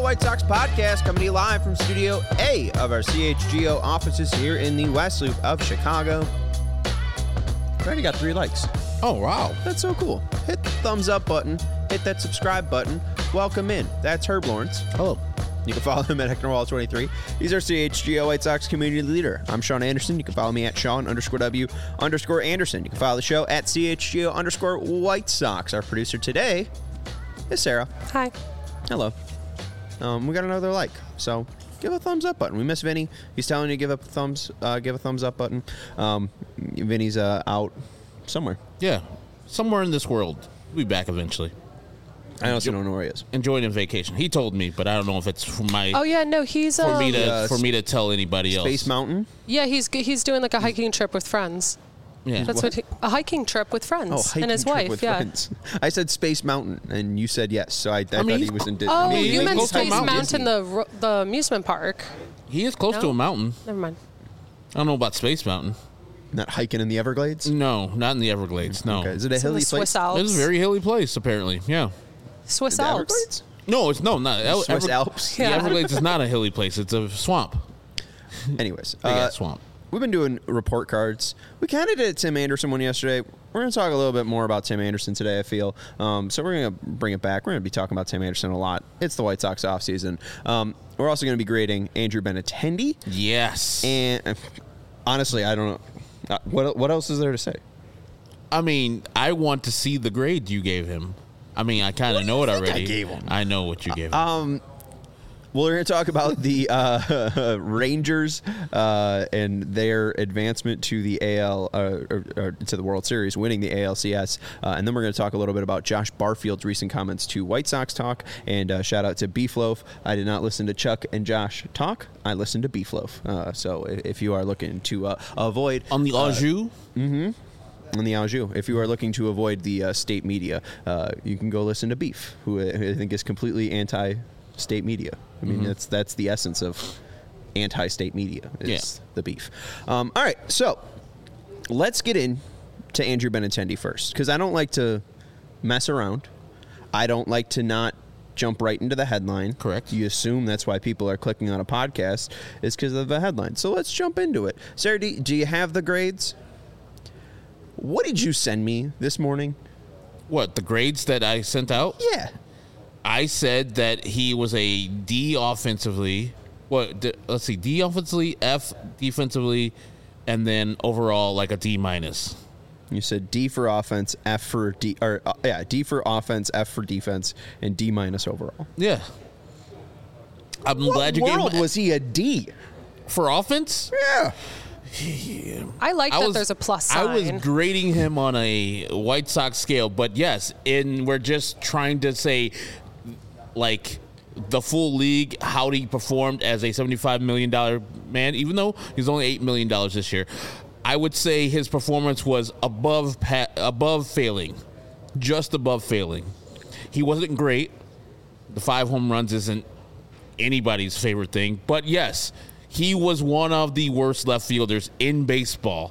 White Sox podcast coming to you live from Studio A of our CHGO offices here in the West Loop of Chicago. Already got 3 likes. Oh, wow. That's so cool. Hit the thumbs up button. Hit that subscribe button. Welcome in. That's Herb Lawrence. Hello. You can follow him at HectorWall23. He's our CHGO White Sox community leader. I'm Sean Anderson. You can follow me at Sean_W_Anderson. You can follow the show at CHGO_White Sox. Our producer today is Sarah. Hi. Hello. We got another like, so give a thumbs up button. We miss Vinny. He's telling you to give a thumbs up button. Vinny's out somewhere. Yeah, somewhere in this world. We'll be back eventually. I also don't know where he is. Enjoying a vacation. He told me, but I don't know if it's for my. Oh yeah, no, he's for me to tell anybody else. Space Mountain. Yeah, he's doing like a hiking trip with friends. Yeah, That's a hiking trip with friends and his wife. Yeah. Friends. I said Space Mountain, and you said yes. So I thought he was in Disney. Oh, mean, you meant close to Space Mountain. Mountain, the amusement park. He is close to a mountain. Never mind. I don't know about Space Mountain. Not hiking in the Everglades? No, not in the Everglades. No. Okay. Is it a It's in hilly the Swiss place? Alps. It's a very hilly place, apparently. Yeah. Swiss The Alps. Everglades? No, it's not. Swiss Alps. The Yeah. Everglades is not a hilly place. It's a swamp. Anyways, Big ass swamp. we've been doing report cards. We kind of did a Tim Anderson one yesterday. We're going to talk a little bit more about Tim Anderson today, I feel. So we're going to bring it back. We're going to be talking about Tim Anderson a lot. It's the White Sox offseason. We're also going to be grading Andrew Benintendi. Yes. And honestly, I don't know. What else is there to say? I mean, I want to see the grade you gave him. I mean, I kind of know it already. I gave him? I know what you gave him. We're going to talk about the Rangers and their advancement to the AL or to the World Series, winning the ALCS, and then we're going to talk a little bit about Josh Barfield's recent comments to White Sox Talk. And shout out to Beef Loaf. I did not listen to Chuck and Josh talk. I listened to Beef Loaf. So if you are looking to avoid On the Anjou? on the Anjou, if you are looking to avoid the state media, you can go listen to Beef, who I think is completely anti-state media. I mean, that's the essence of anti-state media is the Beef. All right, so let's get in to Andrew Benintendi first, because I don't like to mess around. I don't like to not jump right into the headline. Correct. You assume that's why people are clicking on a podcast is because of the headline. So let's jump into it. Sarah, do you have the grades? What did you send me this morning? What, the grades that I sent out? Yeah. I said that he was a D offensively. Let's see, D offensively, F defensively, and then overall like a D minus. You said D for offense, F for D, or D for offense, F for defense, and D minus overall. Yeah. I'm glad you What gave world him was he a D? for offense. Yeah. I like that there's a plus sign. I was grading him on a White Sox scale, but yes, we're just trying to say, like, the full league, how he performed as a $75 million man, even though he's only $8 million this year. I would say his performance was above failing, just above failing. He wasn't great. The 5 home runs isn't anybody's favorite thing, but yes, he was one of the worst left fielders in baseball,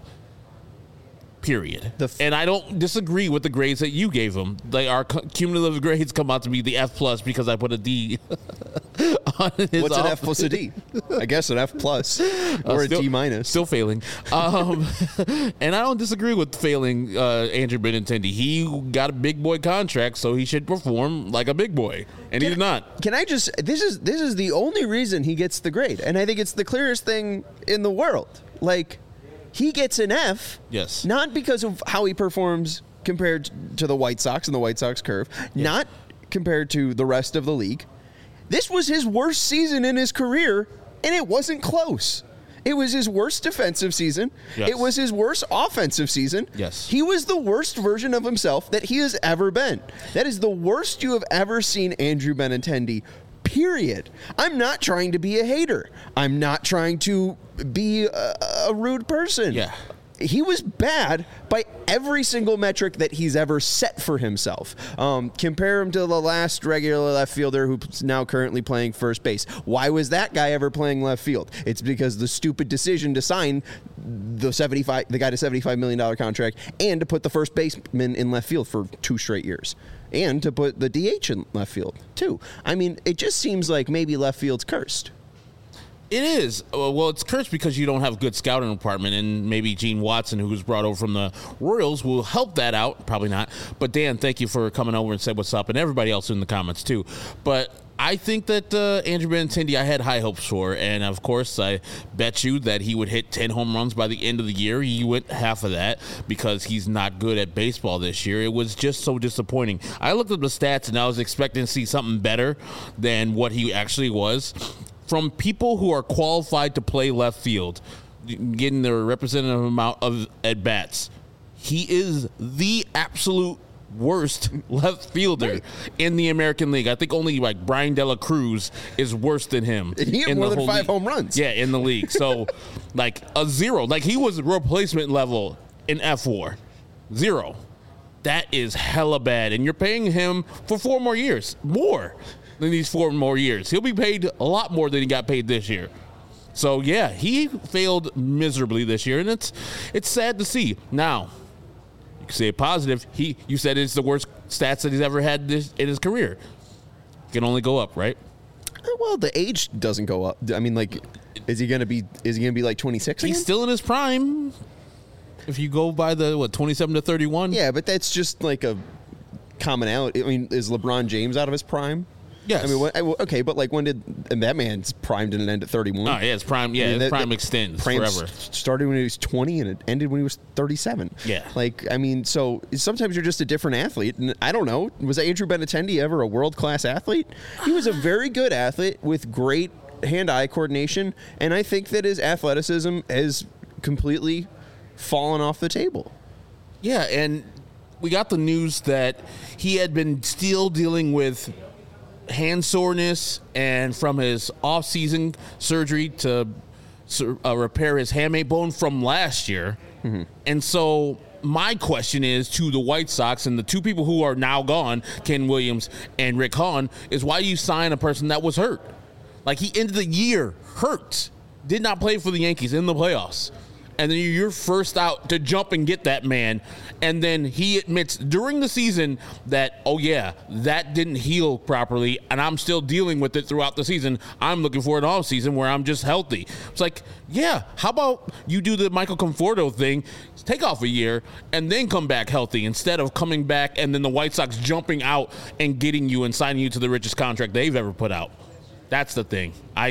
period. And I don't disagree with the grades that you gave him. Our cumulative grades come out to be the F plus because I put a D on his What's an F plus a D? I guess an F plus or a D minus. Still failing. And I don't disagree with failing Andrew Benintendi. He got a big boy contract, so he should perform like a big boy. And he did not. Can I just, this is the only reason he gets the grade. And I think it's the clearest thing in the world. Like, he gets an F, yes, not because of how he performs compared to the White Sox and the White Sox curve, not compared to the rest of the league. This was his worst season in his career, and it wasn't close. It was his worst defensive season. Yes. It was his worst offensive season. Yes. He was the worst version of himself that he has ever been. That is the worst you have ever seen Andrew Benintendi, period. I'm not trying to be a hater. I'm not trying to be a rude person. Yeah. he was bad by every single metric that he's ever set for himself. Compare him to the last regular left fielder who's now currently playing first base. Why was that guy ever playing left field? It's because the stupid decision to sign the guy to $75 million contract and to put the first baseman in left field for 2 straight years. And to put the DH in left field, too. I mean, it just seems like maybe left field's cursed. It is. Well, it's cursed because you don't have a good scouting department, and maybe Gene Watson, who was brought over from the Royals, will help that out. Probably not. But, Dan, thank you for coming over and said what's up, and everybody else in the comments, too. But I think that Andrew Benintendi, I had high hopes for, and, of course, I bet you that he would hit 10 home runs by the end of the year. He went half of that because he's not good at baseball this year. It was just so disappointing. I looked at the stats, and I was expecting to see something better than what he actually was. From people who are qualified to play left field, getting their representative amount of at-bats, he is the absolute worst left fielder in the American League. I think only like Brian De La Cruz is worse than him. He had more than 5 home runs. Yeah, in the league. So, like a 0. Like he was replacement level in F4. 0. That is hella bad. And you're paying him for 4 more years. More than these 4 more years. He'll be paid a lot more than he got paid this year. So, yeah, he failed miserably this year, and it's sad to see. Now, you can say positive. You said it's the worst stats that he's ever had in his career. It can only go up, right? Well, the age doesn't go up. I mean, like, is he gonna be like 26 again? He's still in his prime. If you go by the 27 to 31. Yeah, but that's just like a commonality. I mean, is LeBron James out of his prime? Yes. I mean, okay, but like when did that man's prime didn't end at 31? Oh, yeah, his prime. Yeah, his prime extends forever. Started when he was 20 and it ended when he was 37. Yeah. Like, I mean, so sometimes you're just a different athlete, and I don't know. Was Andrew Benintendi ever a world-class athlete? He was a very good athlete with great hand-eye coordination, and I think that his athleticism has completely fallen off the table. Yeah, and we got the news that he had been still dealing with hand soreness, and from his off-season surgery to repair his hamate bone from last year. Mm-hmm. And so my question is to the White Sox and the 2 people who are now gone, Ken Williams and Rick Hahn, is why you sign a person that was hurt. Like, he ended the year hurt, did not play for the Yankees in the playoffs. And then you're first out to jump and get that man. And then he admits during the season that, oh, yeah, that didn't heal properly, and I'm still dealing with it throughout the season. I'm looking for an off season where I'm just healthy. It's like, yeah, how about you do the Michael Conforto thing, take off a year, and then come back healthy instead of coming back and then the White Sox jumping out and getting you and signing you to the richest contract they've ever put out. That's the thing.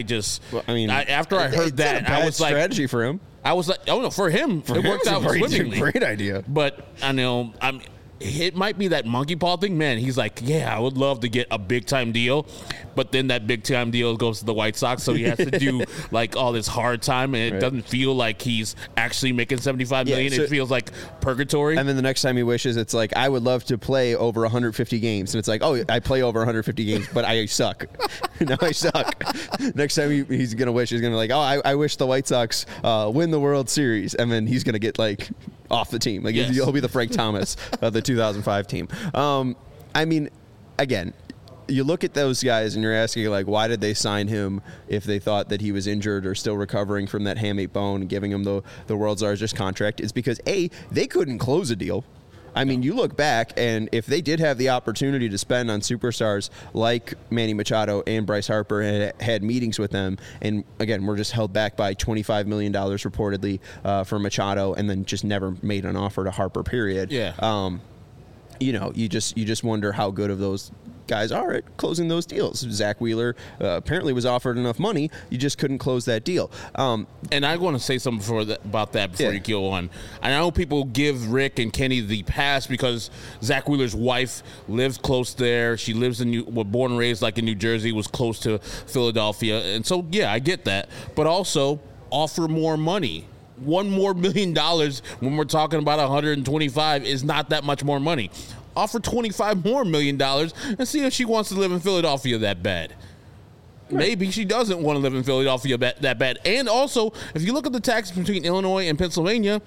After I heard that, I was like, strategy for him. I was like, oh no, for him, it worked out swimmingly. Great idea. But I know, it might be that monkey paw thing, man. He's like, yeah, I would love to get a big time deal, but then that big time deal goes to the White Sox, so he has to do like all this hard time, and it doesn't feel like he's actually making $75 million. So it feels like purgatory. And then the next time he wishes, it's like, I would love to play over 150 games, and it's like, oh, I play over 150 games, but I suck. No, I suck. Next time he's gonna wish, he's gonna be like, oh, I wish the White Sox win the World Series, and then he's gonna get like off the team. Like, he'll be the Frank Thomas of the 2005 team. I mean, again, you look at those guys and you're asking, like, why did they sign him if they thought that he was injured or still recovering from that hamate bone and giving him the world's largest contract? It's because, A, they couldn't close a deal. I mean, you look back, and if they did have the opportunity to spend on superstars like Manny Machado and Bryce Harper and had meetings with them, and again, we're just held back by $25 million reportedly for Machado, and then just never made an offer to Harper, period. Yeah. You just wonder how good of those guys are at closing those deals. Zach Wheeler apparently was offered enough money, you just couldn't close that deal. And I want to say something about that before you go on. I know people give Rick and Kenny the pass because Zach Wheeler's wife lives close there. She lives was born and raised like in New Jersey, was close to Philadelphia, and so yeah, I get that. But also offer more money. $1 more million when we're talking about 125 is not that much more money. Offer $25 more million and see if she wants to live in Philadelphia that bad. Right. Maybe she doesn't want to live in Philadelphia that bad. And also, if you look at the taxes between Illinois and Pennsylvania,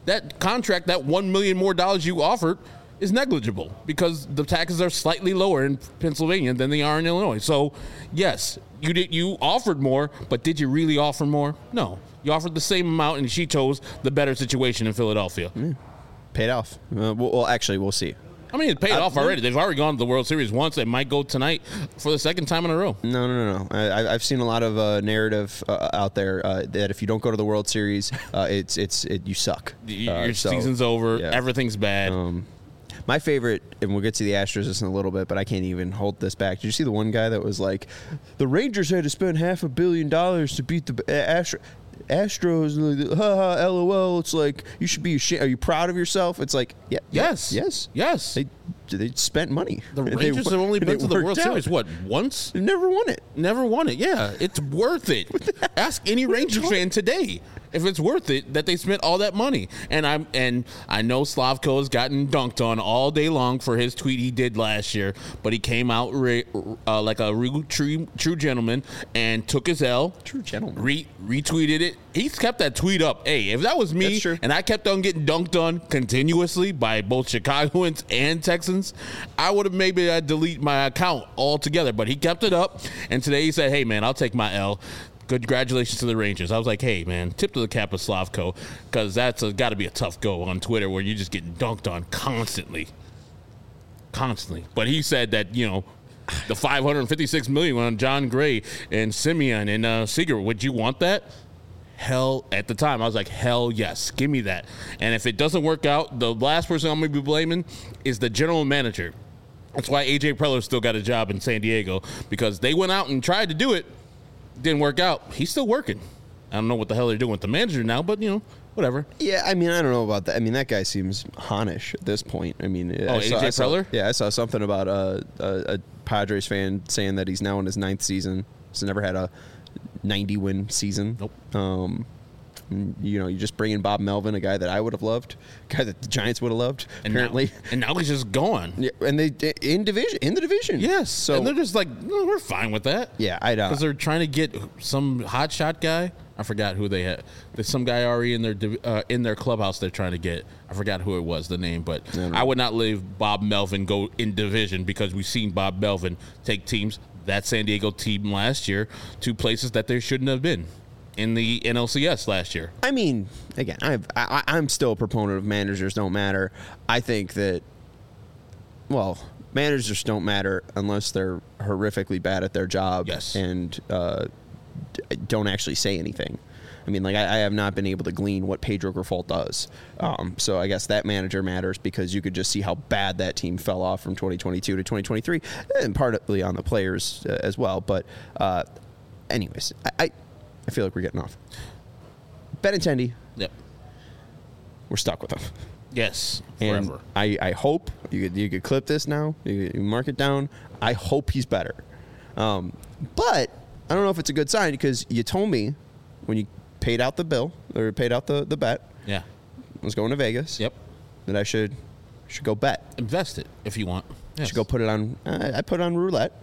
that contract, that $1 million more you offered, is negligible because the taxes are slightly lower in Pennsylvania than they are in Illinois. So, yes, you offered more, but did you really offer more? No. You offered the same amount, and she chose the better situation in Philadelphia. Paid off. Well, actually, we'll see. I mean, it paid off already. They've already gone to the World Series once. They might go tonight for the second time in a row. No. I've seen a lot of narrative out there that if you don't go to the World Series, you suck. Your season's over. Yeah. Everything's bad. My favorite, and we'll get to the Astros in a little bit, but I can't even hold this back. Did you see the one guy that was like, the Rangers had to spend $500 million to beat the Astros, like, LOL. It's like, you should be ashamed. Are you proud of yourself? It's like, yes. They spent money. The Rangers have only been to the World Series, what, once? They've never won it. Never won it, yeah. It's worth it. Ask any Rangers fan today if it's worth it that they spent all that money. And I know Slavko has gotten dunked on all day long for his tweet he did last year, but he came out like a real true gentleman and took his L. True gentleman. Retweeted it. He's kept that tweet up. Hey, if that was me and I kept on getting dunked on continuously by both Chicagoans and Texans, I would have maybe delete my account altogether. But he kept it up, and today he said, hey, man, I'll take my L. Congratulations to the Rangers. I was like, hey, man, tip to the cap of Slavko, because that's got to be a tough go on Twitter where you're just getting dunked on constantly. But he said that, the $556 million on John Gray and Simeon and Seager, would you want that? Hell, at the time, I was like, hell yes, give me that. And if it doesn't work out, the last person I'm going to be blaming is the general manager. That's why A.J. Preller still got a job in San Diego, because they went out and tried to do it. Didn't work out. He's still working. I don't know what the hell they're doing with the manager now, but, whatever. Yeah, I mean, I don't know about that. I mean, that guy seems Hanish at this point. I mean, A.J. Preller? Yeah, I saw something about a Padres fan saying that he's now in his 9th season. He's never had a 90-win season. Nope. You just bring in Bob Melvin, a guy that I would have loved, a guy that the Giants would have loved, apparently. Now he's just gone. Yeah, and they in the division. Yes. So and they're just like, no, we're fine with that. Yeah, I know. Because they're trying to get some hotshot guy. I forgot who they had. There's some guy already in their clubhouse they're trying to get. I forgot who it was, the name, but I would not leave Bob Melvin go in division, because we've seen Bob Melvin take teams, that San Diego team last year, to places that they shouldn't have been in the NLCS last year. I mean, again, I'm still a proponent of managers don't matter. I think that, managers don't matter unless they're horrifically bad at their job. Yes. And don't actually say anything. I mean, like, I have not been able to glean what Pedro Grifol does. So I guess that manager matters, because you could just see how bad that team fell off from 2022 to 2023, and partly on the players as well. But anyways, I feel like we're getting off. Benintendi. Yep. We're stuck with him. Yes. And forever. I hope you could clip this now. You mark it down. I hope he's better. But I don't know if it's a good sign, because you told me when you paid out the bill, or paid out the bet. Yeah. I was going to Vegas. Yep. That I should go bet. Invest it if you want. Yes. Should go put it on. I put it on roulette.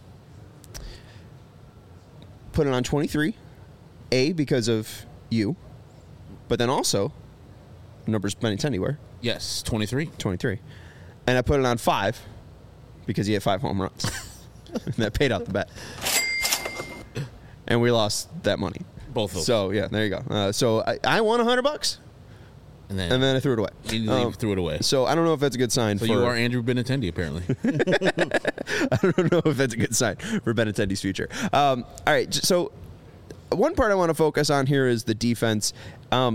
Put it on 23. Because of you, but then also, numbers Benintendi were. Yes, 23. 23. And I put it on 5 because he had 5 home runs. And that paid out the bet. And we lost that money. Both of them. So, yeah, there you go. So I won $100. And then I threw it away. You threw it away. So I don't know if that's a good sign. So you are Andrew Benintendi, apparently. I don't know if that's a good sign for Benintendi's future. All right, so one part I want to focus on here is the defense. The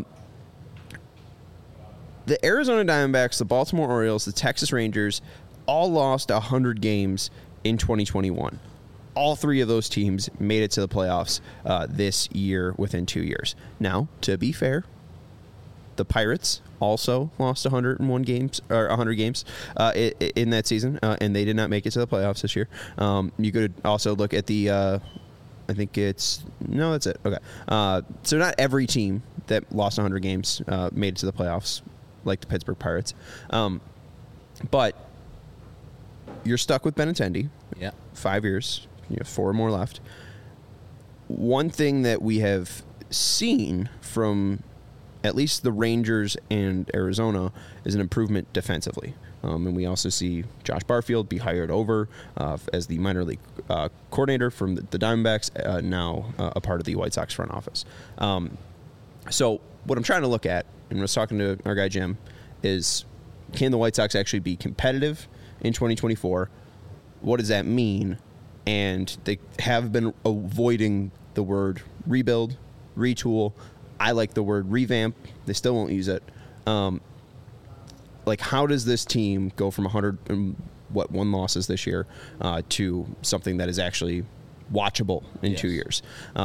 Arizona Diamondbacks, the Baltimore Orioles, the Texas Rangers all lost 100 games in 2021. All 3 of those teams made it to the playoffs this year within 2 years. Now, to be fair, the Pirates also lost 101 games or 100 games in that season, and they did not make it to the playoffs this year. You could also look at the I think that's it. Okay. So not every team that lost 100 games made it to the playoffs, like the Pittsburgh Pirates. But you're stuck with Benintendi. Yeah. 5 years. You have 4 more left. One thing that we have seen from at least the Rangers and Arizona is an improvement defensively. And we also see Josh Barfield be hired over as the minor league coordinator from the Diamondbacks, now a part of the White Sox front office. So what I'm trying to look at, and I was talking to our guy Jim, is can the White Sox actually be competitive in 2024? What does that mean? And they have been avoiding the word rebuild, retool. I like the word revamp. They still won't use it. Like, how does this team go from 101 losses this year to something that is actually watchable in 2 years?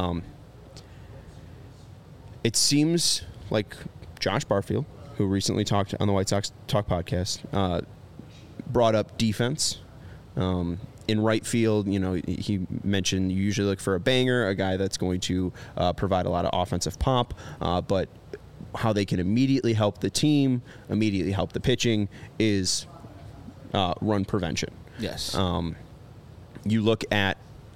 It seems like Josh Barfield, who recently talked on the White Sox Talk podcast, brought up defense. In right field, he mentioned you usually look for a banger, a guy that's going to provide a lot of offensive pop, but how they can immediately help the team, immediately help the pitching is run prevention. Yes. You look at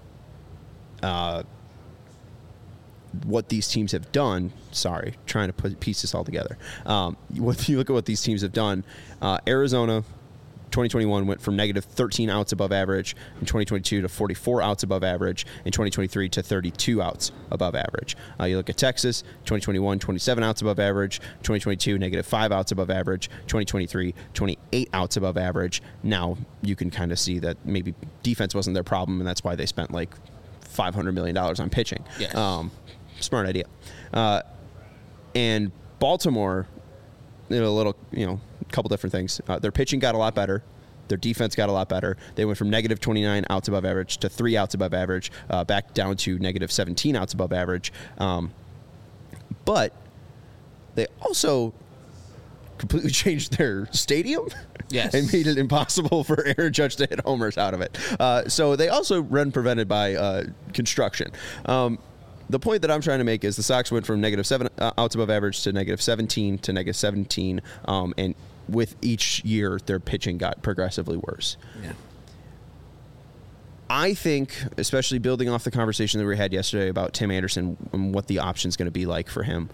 what these teams have done. Sorry, trying to piece this all together. What you look at what these teams have done, Arizona 2021 went from negative 13 outs above average in 2022 to 44 outs above average in 2023 to 32 outs above average. You look at Texas, 2021, 27 outs above average, 2022, negative 5 outs above average, 2023, 28 outs above average. Now you can kind of see that maybe defense wasn't their problem, and that's why they spent like $500 million on pitching. Yes. Smart idea. And Baltimore, couple different things. Their pitching got a lot better. Their defense got a lot better. They went from negative 29 outs above average to 3 outs above average, back down to negative 17 outs above average. But they also completely changed their stadium. Yes. And made it impossible for Aaron Judge to hit homers out of it. So they also run prevented by construction. The point that I'm trying to make is the Sox went from negative 7 outs above average to negative 17 to negative 17, and with each year, their pitching got progressively worse. Yeah. I think, especially building off the conversation that we had yesterday about Tim Anderson and what the option's going to be like for him,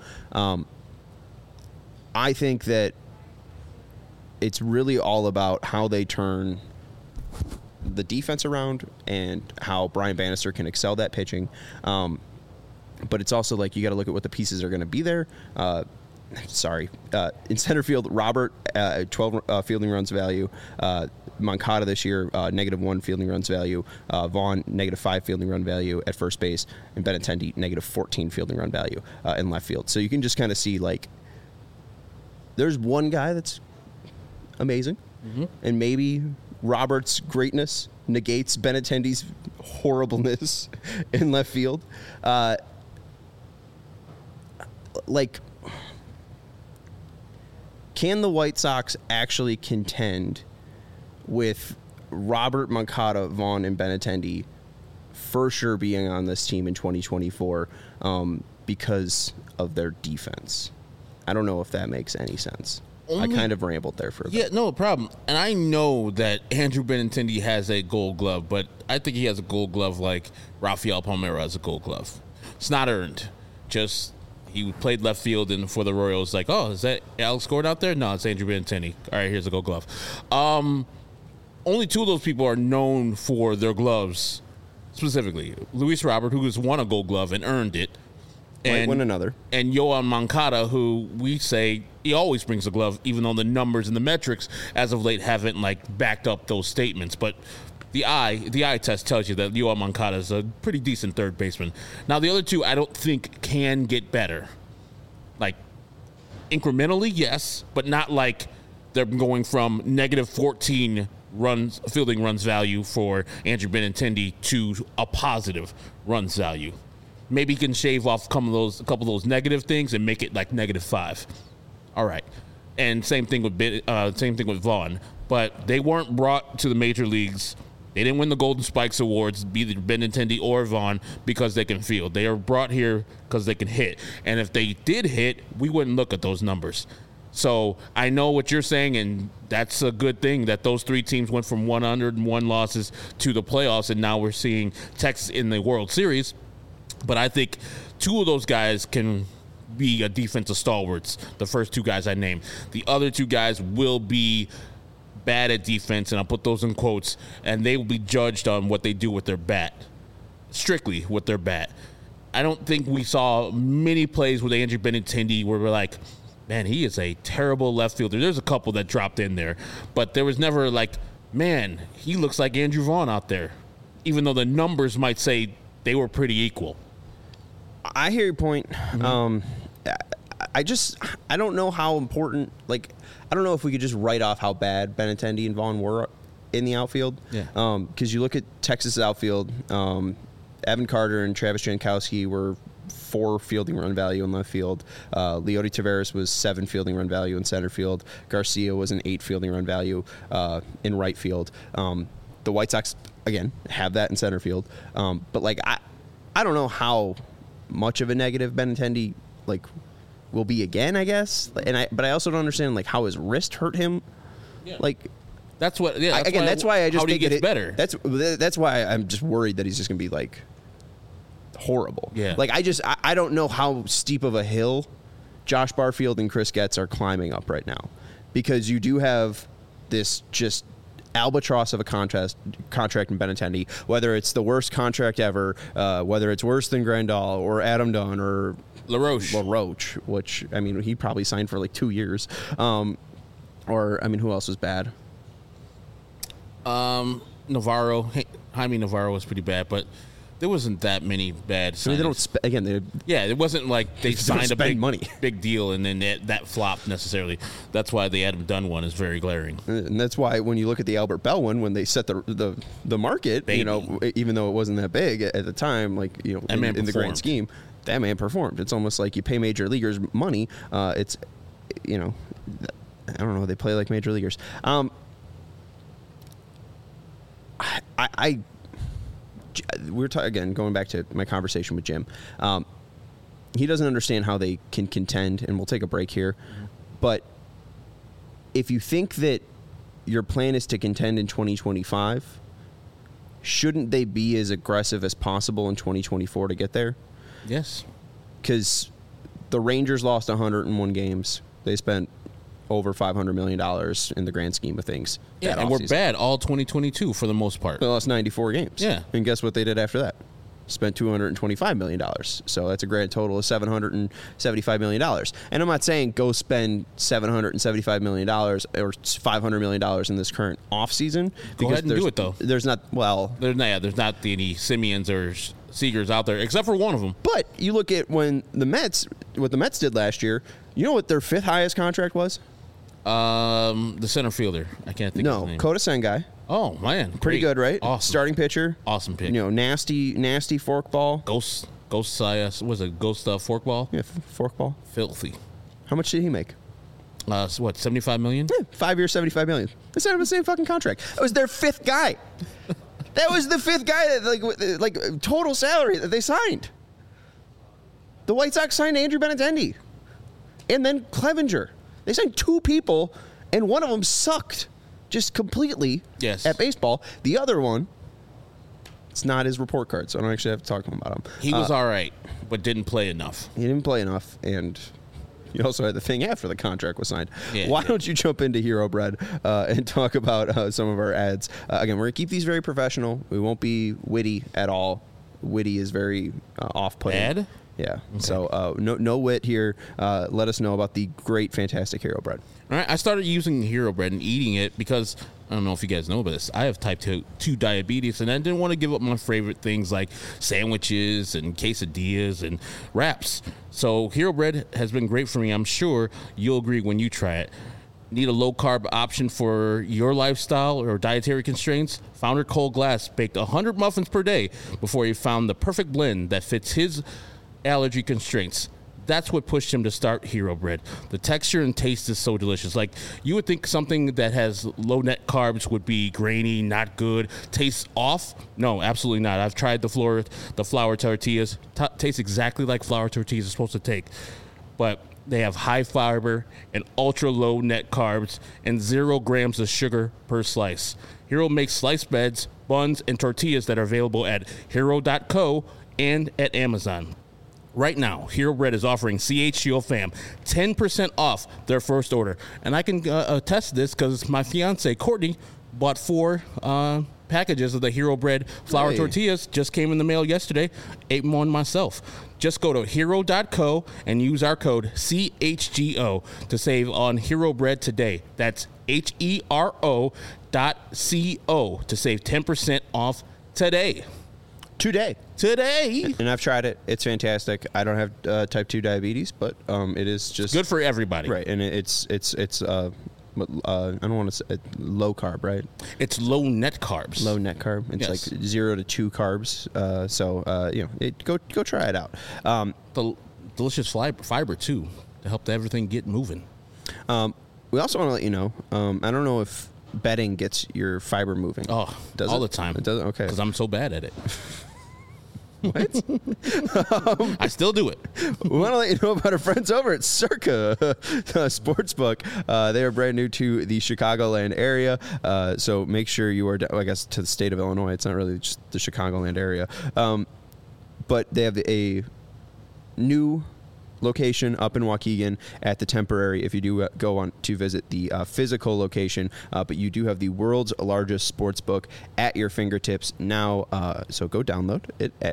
I think that it's really all about how they turn the defense around and how Brian Bannister can excel that pitching. But it's also like you got to look at what the pieces are going to be there. In center field, Robert, 12 fielding runs value. Moncada this year, -1 fielding runs value. Vaughn, -5 fielding run value at first base. And Benintendi, -14 fielding run value in left field. So you can just kind of see, like, there's one guy that's amazing. Mm-hmm. And maybe Robert's greatness negates Benintendi's horribleness in left field. Can the White Sox actually contend with Robert, Moncada, Vaughn, and Benintendi for sure being on this team in 2024 because of their defense? I don't know if that makes any sense. I kind of rambled there for a bit. Yeah, no problem. And I know that Andrew Benintendi has a Gold Glove, but I think he has a Gold Glove like Rafael Palmeiro has a Gold Glove. It's not earned. Just he played left field and for the Royals. Like, oh, is that Alex Gordon out there? No, it's Andrew Benintendi. All right, here's a Gold Glove. Only 2 of those people are known for their gloves specifically. Luis Robert, who has won a Gold Glove and earned it. Might win another. And Yoan Moncada, who we say he always brings a glove, even though the numbers and the metrics as of late haven't backed up those statements. But the eye test tells you that Yoan Moncada is a pretty decent third baseman. Now the other 2 I don't think can get better. Incrementally, yes, but not like they're going from -14 fielding runs value for Andrew Benintendi to a positive runs value. Maybe he can shave off a couple of those negative things and make it like -5. All right, and same thing with Vaughn. But they weren't brought to the major leagues. They didn't win the Golden Spikes Awards, either Benintendi or Vaughn, because they can field. They are brought here because they can hit. And if they did hit, we wouldn't look at those numbers. So I know what you're saying, and that's a good thing that those 3 teams went from 101 losses to the playoffs, and now we're seeing Texas in the World Series. But I think 2 of those guys can be a defensive stalwarts, the first two guys I named. The other two guys will be bad at defense, and I'll put those in quotes, and they will be judged on what they do with their bat, strictly with their bat. I don't think we saw many plays with Andrew Benintendi where we're like, man, he is a terrible left fielder. There's a couple that dropped in there, but there was never like, man, he looks like Andrew Vaughn out there, even though the numbers might say they were pretty equal. I hear your point. Mm-hmm. I don't know how important, like, I don't know if we could just write off how bad Benintendi and Vaughn were in the outfield. Yeah. Because you look at Texas' outfield, Evan Carter and Travis Jankowski were 4 fielding run value in left field. Leody Taveras was 7 fielding run value in center field. Garcia was an 8 fielding run value in right field. The White Sox, again, have that in center field. But, like, I don't know how much of a negative Benintendi, like, will be again, I guess. But I also don't understand, like, how his wrist hurt him. Yeah. Like, that's what. Yeah. That's why I just think he gets better. That's why I'm just worried that he's just gonna be like horrible. Yeah. Like I don't know how steep of a hill Josh Barfield and Chris Getz are climbing up right now, because you do have this just albatross of a contract in Benintendi, whether it's the worst contract ever, whether it's worse than Grandal or Adam Dunn or LaRoche, which, I mean, he probably signed for like 2 years. Or, I mean, who else was bad? Navarro. Jaime Navarro was pretty bad, but there wasn't that many bad signings. I mean, they don't it wasn't like they signed a big deal and then that flopped necessarily. That's why the Adam Dunn one is very glaring. And that's why when you look at the Albert Bell one, when they set the market, Baby. you know, even though it wasn't that big at the time, like, you know, in the grand scheme, that man performed. It's almost like you pay major leaguers money. It's, you know, I don't know. They play like major leaguers. We're again going back to my conversation with Jim. He doesn't understand how they can contend, and we'll take a break here. Mm-hmm. But if you think that your plan is to contend in 2025, shouldn't they be as aggressive as possible in 2024 to get there? Yes. Because the Rangers lost 101 games. They spent over $500 million in the grand scheme of things. Yeah, and we're bad all 2022 for the most part. They lost 94 games. Yeah. And guess what they did after that? Spent $225 million. So that's a grand total of $775 million. And I'm not saying go spend $775 million or $500 million in this current offseason. Go ahead and do it, though. There's not, there's not any Simeons or Seagers out there, except for one of them. But you look at what the Mets did last year, you know what their 5th highest contract was? The center fielder. I can't think of his name. Kota Sengai. Oh, man. Pretty good, right? Awesome. Starting pitcher. Awesome pick. You know, nasty forkball. Ghost was a ghost forkball? Yeah, forkball. Filthy. How much did he make? What, $75 million? Yeah, 5 years, $75 million. They signed him the same fucking contract. That was their 5th guy. That was the 5th guy that, like total salary that they signed. The White Sox signed Andrew Benintendi. And then Clevenger. They signed 2 people, and one of them sucked just completely at baseball. The other one, it's not his report card, so I don't actually have to talk to him about him. He was all right, but didn't play enough. He didn't play enough, and you also had the thing after the contract was signed. Yeah, Why don't you jump into Hero Bread and talk about some of our ads? Again, we're going to keep these very professional. We won't be witty at all. Witty is very off-putting. Bad? Yeah. Okay. So no wit here. Let us know about the great, fantastic Hero Bread. All right. I started using Hero Bread and eating it because I don't know if you guys know about this. I have type 2 diabetes, and I didn't want to give up my favorite things like sandwiches and quesadillas and wraps. So Hero Bread has been great for me. I'm sure you'll agree when you try it. Need a low-carb option for your lifestyle or dietary constraints? Founder Cole Glass baked 100 muffins per day before he found the perfect blend that fits his allergy constraints. That's what pushed him to start Hero Bread. The texture and taste is so delicious. Like, you would think something that has low net carbs would be grainy, not good, tastes off. No, absolutely not. I've tried the flour tortillas. Tastes exactly like flour tortillas are supposed to take. But they have high fiber and ultra low net carbs and 0 grams of sugar per slice. Hero makes sliced breads, buns, and tortillas that are available at hero.co and at Amazon. Right now, Hero Bread is offering CHGO fam 10% off their first order. And I can attest this because my fiance, Courtney, bought 4 packages of the Hero Bread flour tortillas. Just came in the mail yesterday. Ate one myself. Just go to hero.co and use our code CHGO to save on Hero Bread today. That's HERO.CO to save 10% off today. Today. And I've tried it. It's fantastic. I don't have type 2 diabetes, but it is just good for everybody. Right, and it's I don't want to say low carb, right? It's low net carbs. Low net carb. It's like 0 to 2 carbs. Go try it out. The delicious fiber too to help everything get moving. We also want to let you know. I don't know if betting gets your fiber moving. Oh, does all the time. It doesn't. Okay, because I'm so bad at it. What? I still do it. We want to let you know about our friends over at Circa Sportsbook. They are brand new to the Chicagoland area, so make sure you are, I guess, to the state of Illinois. It's not really just the Chicagoland area. But they have a new location up in Waukegan at the temporary if you do go on to visit the physical location, but you do have the world's largest sports book at your fingertips now, so go download it at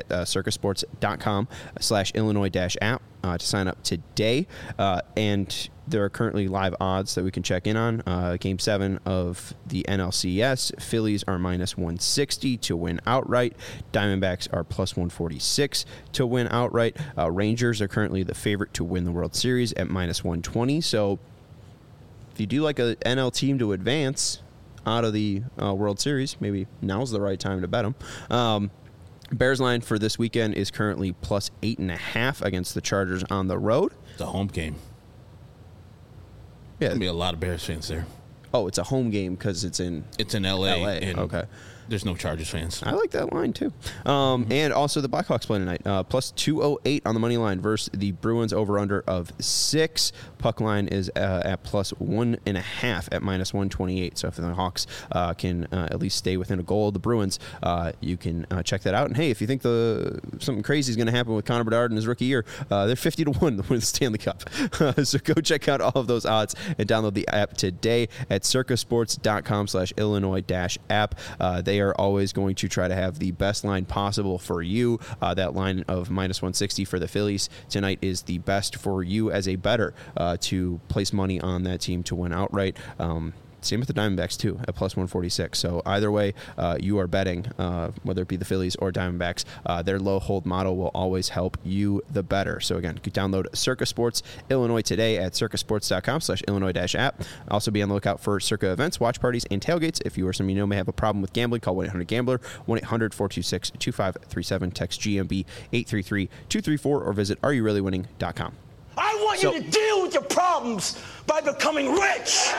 circasports.com/Illinois-app to sign up today, and there are currently live odds that we can check in on. Game 7 of the NLCS, Phillies are -160 to win outright. Diamondbacks are +146 to win outright. Rangers are currently the favorite to win the World Series at -120. So if you do like an NL team to advance out of the World Series, maybe now's the right time to bet them. Bears line for this weekend is currently +8.5 against the Chargers on the road. It's a home game. Yeah, there's gonna be a lot of Bears fans there. Oh, it's a home game because it's in LA. And okay. There's no Chargers fans. I like that line too. And also the Blackhawks play tonight. +208 on the money line versus the Bruins over/under of 6. Puck line is at +1.5 at -128. So if the Hawks can at least stay within a goal of the Bruins, you can check that out. And hey, if you think something crazy is going to happen with Connor Bedard in his rookie year, they're 50-1 to win the Stanley Cup. So go check out all of those odds and download the app today at circasports.com/Illinois-app. They are always going to try to have the best line possible for you. That line of -160 for the Phillies tonight is the best for you as a bettor to place money on that team to win outright. Same with the Diamondbacks, too, at +146. So either way, you are betting, whether it be the Phillies or Diamondbacks, their low hold model will always help you, the better. So again, you can download Circa Sports Illinois today at circasports.com/Illinois-app. Also be on the lookout for Circa events, watch parties, and tailgates. If you or someone you know may have a problem with gambling, call 1-800-GAMBLER, 1-800-426-2537, text GMB 833-234, or visit areyourreallywinning.com. I want you to deal with your problems by becoming rich.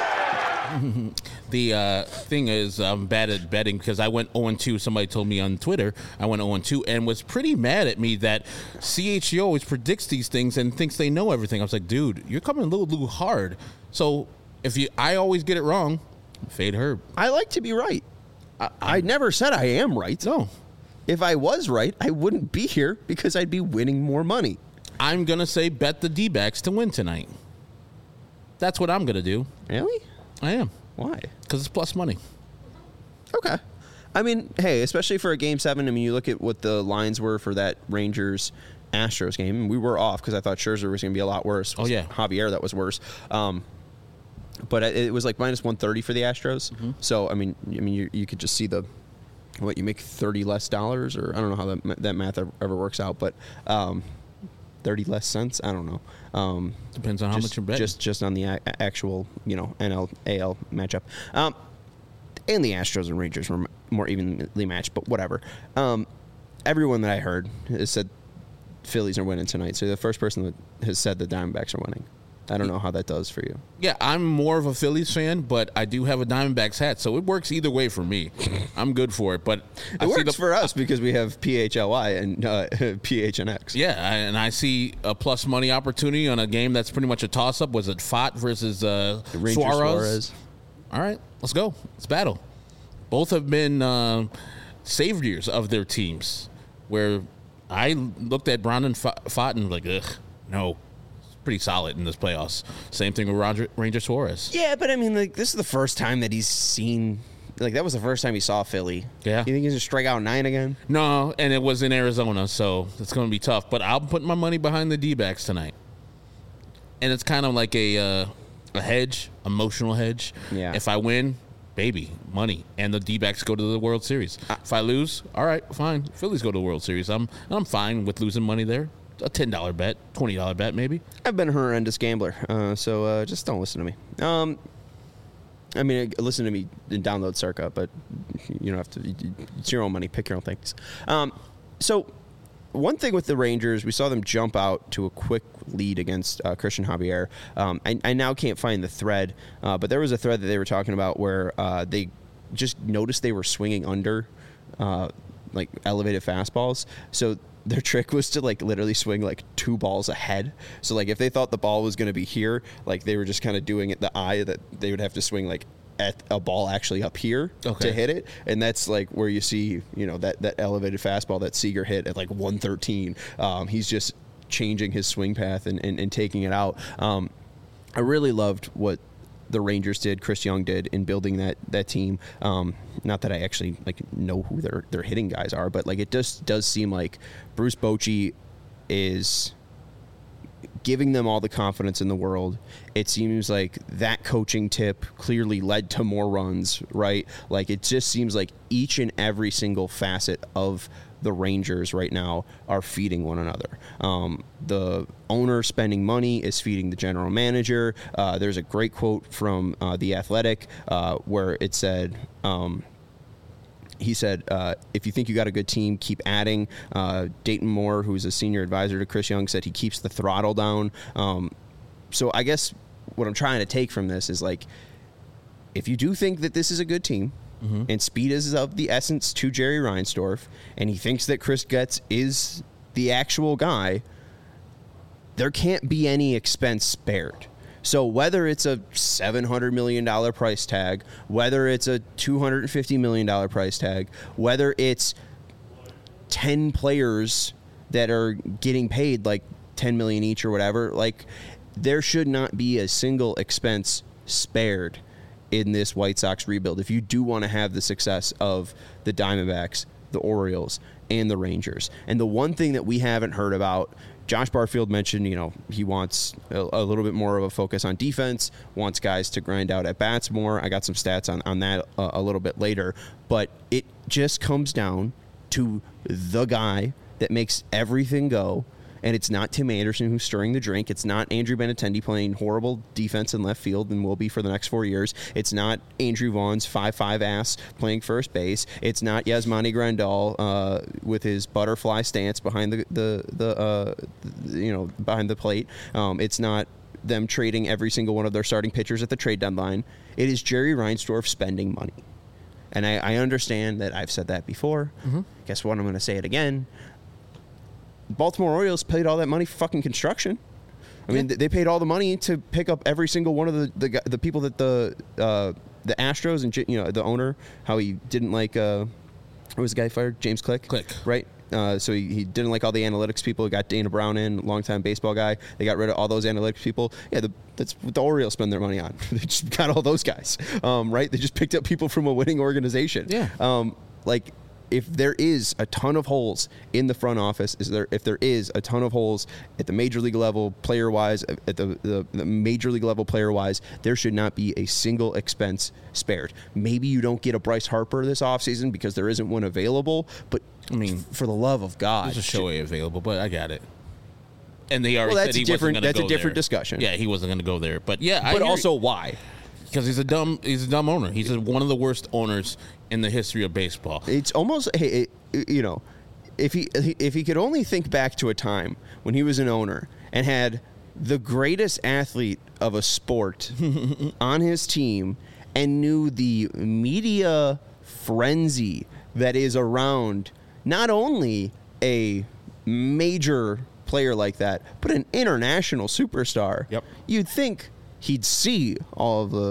The thing is, I'm bad at betting because I went 0-2. Somebody told me on Twitter I went 0-2 and was pretty mad at me that CHGO always predicts these things and thinks they know everything. I was like, dude, you're coming a little hard. So I always get it wrong. Fade Herb. I like to be right. I never said I am right. No. If I was right, I wouldn't be here because I'd be winning more money. I'm going to say bet the D-backs to win tonight. That's what I'm going to do. Really? I am. Why? Because it's plus money. Okay. I mean, hey, especially for a Game 7, I mean, you look at what the lines were for that Rangers-Astros game, and we were off because I thought Scherzer was going to be a lot worse. Oh, yeah. Javier, that was worse. But it was like -130 for the Astros. Mm-hmm. So, I mean, you could just see you make $30 less, or I don't know how that math ever works out, but 30 less cents. I don't know. Depends on how much you're betting. Just on the actual, NL AL matchup. And the Astros and Rangers were more evenly matched, but whatever. Everyone that I heard has said Phillies are winning tonight. So the first person that has said the Diamondbacks are winning. I don't know how that does for you. Yeah, I'm more of a Phillies fan, but I do have a Diamondbacks hat, so it works either way for me. I'm good for it, but it works for us because we have PHLY and PHNX. Yeah, and I see a plus money opportunity on a game that's pretty much a toss-up. Was it Fott versus Suarez? All right, let's go. Let's battle. Both have been saviors of their teams, where I looked at Brandon Pfaadt and like, ugh, no. It's pretty solid in this playoffs. Same thing with Ranger Suarez. Yeah, but I mean, like, this is the first time that he's seen. Like, that was the first time he saw Philly. Yeah. You think he's going to strike out 9 again? No, and it was in Arizona, so it's going to be tough. But I'm putting my money behind the D-backs tonight. And it's kind of like a hedge, emotional hedge. Yeah. If I win, baby, money. And the D-backs go to the World Series. If I lose, all right, fine. Phillies go to the World Series. I'm fine with losing money there. A $10 bet, $20 bet maybe. I've been a horrendous gambler, so just don't listen to me. I mean, listen to me and download Circa, but you don't have to. It's your own money. Pick your own things. So one thing with the Rangers, we saw them jump out to a quick lead against Christian Javier. I now can't find the thread, but there was a thread that they were talking about where they just noticed they were swinging under like elevated fastballs. So their trick was to like literally swing like 2 balls ahead. So like if they thought the ball was going to be here, like they were just kind of doing it the eye that they would have to swing like at a ball actually up here to hit it. And that's like where you see, you know, that elevated fastball that Seager hit at like 113. He's just changing his swing path and taking it out. I really loved what the Rangers did, Chris Young did in building that team. Not that I actually like know who their hitting guys are, but like it just does seem like Bruce Bochy is giving them all the confidence in the world. It seems like that coaching tip clearly led to more runs, right? Like it just seems like each and every single facet of the Rangers right now are feeding one another. The owner spending money is feeding the general manager. There's a great quote from The Athletic where it said, he said, if you think you got a good team, keep adding. Dayton Moore, who's a senior advisor to Chris Young, said he keeps the throttle down. So I guess what I'm trying to take from this is like, if you do think that this is a good team, and speed is of the essence to Jerry Reinsdorf, and he thinks that Chris Getz is the actual guy, there can't be any expense spared. So whether it's a $700 million price tag, whether it's a $250 million price tag, whether it's 10 players that are getting paid like $10 million each or whatever, like there should not be a single expense spared in this White Sox rebuild if you do want to have the success of the Diamondbacks, the Orioles, and the Rangers. And the one thing that we haven't heard about, Josh Barfield mentioned, you know, he wants a little bit more of a focus on defense, wants guys to grind out at bats more. I got some stats on that a little bit later. But it just comes down to the guy that makes everything go. And it's not Tim Anderson who's stirring the drink. It's not Andrew Benintendi playing horrible defense in left field and will be for the next 4 years. It's not Andrew Vaughn's 5'5" ass playing first base. It's not Yasmani Grandal with his butterfly stance behind the behind the plate. It's not them trading every single one of their starting pitchers at the trade deadline. It is Jerry Reinsdorf spending money. And I understand that I've said that before. Guess what? I'm going to say it again. Baltimore Orioles paid all that money for fucking construction. I mean, they paid all the money to pick up every single one of the people that the Astros and, you know, the owner, how he didn't like what was the guy fired? James Click, right? So he didn't like all the analytics people. He got Dana Brown in, longtime baseball guy. They got rid of all those analytics people. Yeah, that's what the Orioles spend their money on. They just got all those guys, right? They just picked up people from a winning organization. Yeah. If there is a ton of holes in the front office, if there is a ton of holes at the major league level player-wise, at the major league level player-wise, there should not be a single expense spared. Maybe you don't get a Bryce Harper this offseason because there isn't one available, but I mean, for the love of God. There's a Shohei available, but I got it. And they already said he wasn't going to go there. That's a different discussion. Yeah, he wasn't going to go there. But yeah, but also why? Because he's a dumb owner. He's one of the worst owners in the history of baseball. It's almost, you know, if he could only think back to a time when he was an owner and had the greatest athlete of a sport on his team and knew the media frenzy that is around not only a major player like that, but an international superstar. Yep. You'd think he'd see all of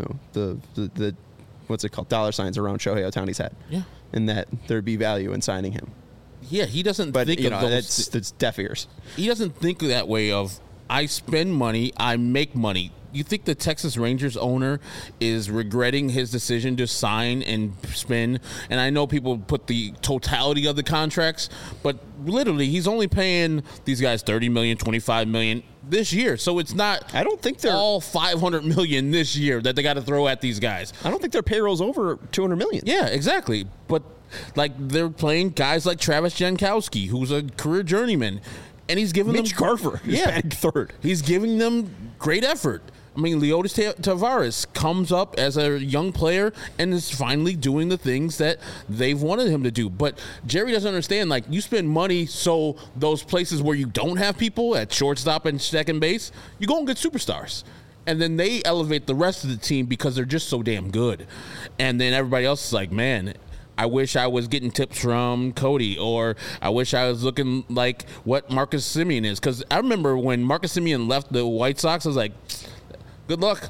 the what's it called, dollar signs around Shohei Ohtani's head. Yeah. And that there'd be value in signing him. Yeah, he doesn't but think you of know, those. that's deaf ears. He doesn't think that way of, I spend money, I make money. You think the Texas Rangers owner is regretting his decision to sign and spend? And I know people put the totality of the contracts, but literally he's only paying these guys $30 million, $25 million this year. So it's not. I don't think they're all $500 million this year that they got to throw at these guys. I don't think their payroll's over $200 million. Yeah, exactly. But like they're playing guys like Travis Jankowski, who's a career journeyman, and he's giving Mitch them Garver, batting third. He's giving them great effort. I mean, Leotis Tavares comes up as a young player and is finally doing the things that they've wanted him to do. But Jerry doesn't understand, like, you spend money so those places where you don't have people at shortstop and second base, you go and get superstars. And then they elevate the rest of the team because they're just so damn good. And then everybody else is like, man, I wish I was getting tips from Cody, or I wish I was looking like what Marcus Semien is. Because I remember when Marcus Semien left the White Sox, I was like, good luck.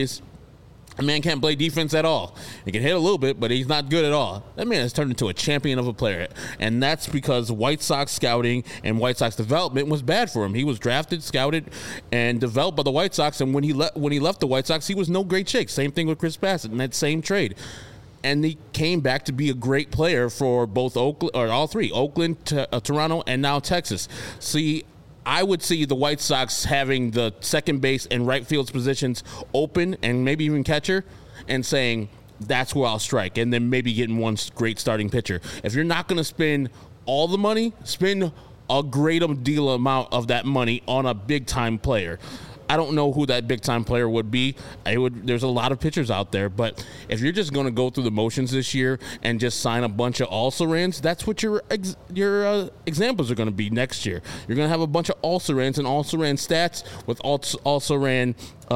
A man can't play defense at all. He can hit a little bit, but he's not good at all. That man has turned into a champion of a player, and that's because White Sox scouting and White Sox development was bad for him. He was drafted, scouted, and developed by the White Sox, and when he left the White Sox, he was no great shake. Same thing with Chris Bassett in that same trade. And he came back to be a great player for both Oakland, or all three, Oakland, Toronto, and now Texas. See, I would see the White Sox having the second base and right field positions open, and maybe even catcher, and saying, that's where I'll strike, and then maybe getting one great starting pitcher. If you're not going to spend all the money, spend a great deal amount of that money on a big-time player. I don't know who that big-time player would be. There's a lot of pitchers out there, but if you're just going to go through the motions this year and just sign a bunch of also-rans, that's what your examples are going to be next year. You're going to have a bunch of also-rans and also-ran stats with also-ran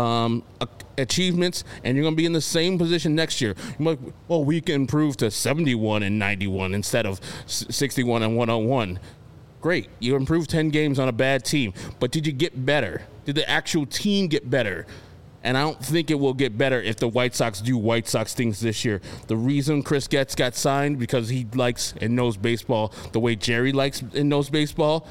achievements, and you're going to be in the same position next year. You're like, well, we can improve to 71 and 91 instead of 61 and 101. Great. You improved 10 games on a bad team, but did you get better? Did the actual team get better? And I don't think it will get better if the White Sox do White Sox things this year. The reason Chris Getz got signed, because he likes and knows baseball the way Jerry likes and knows baseball.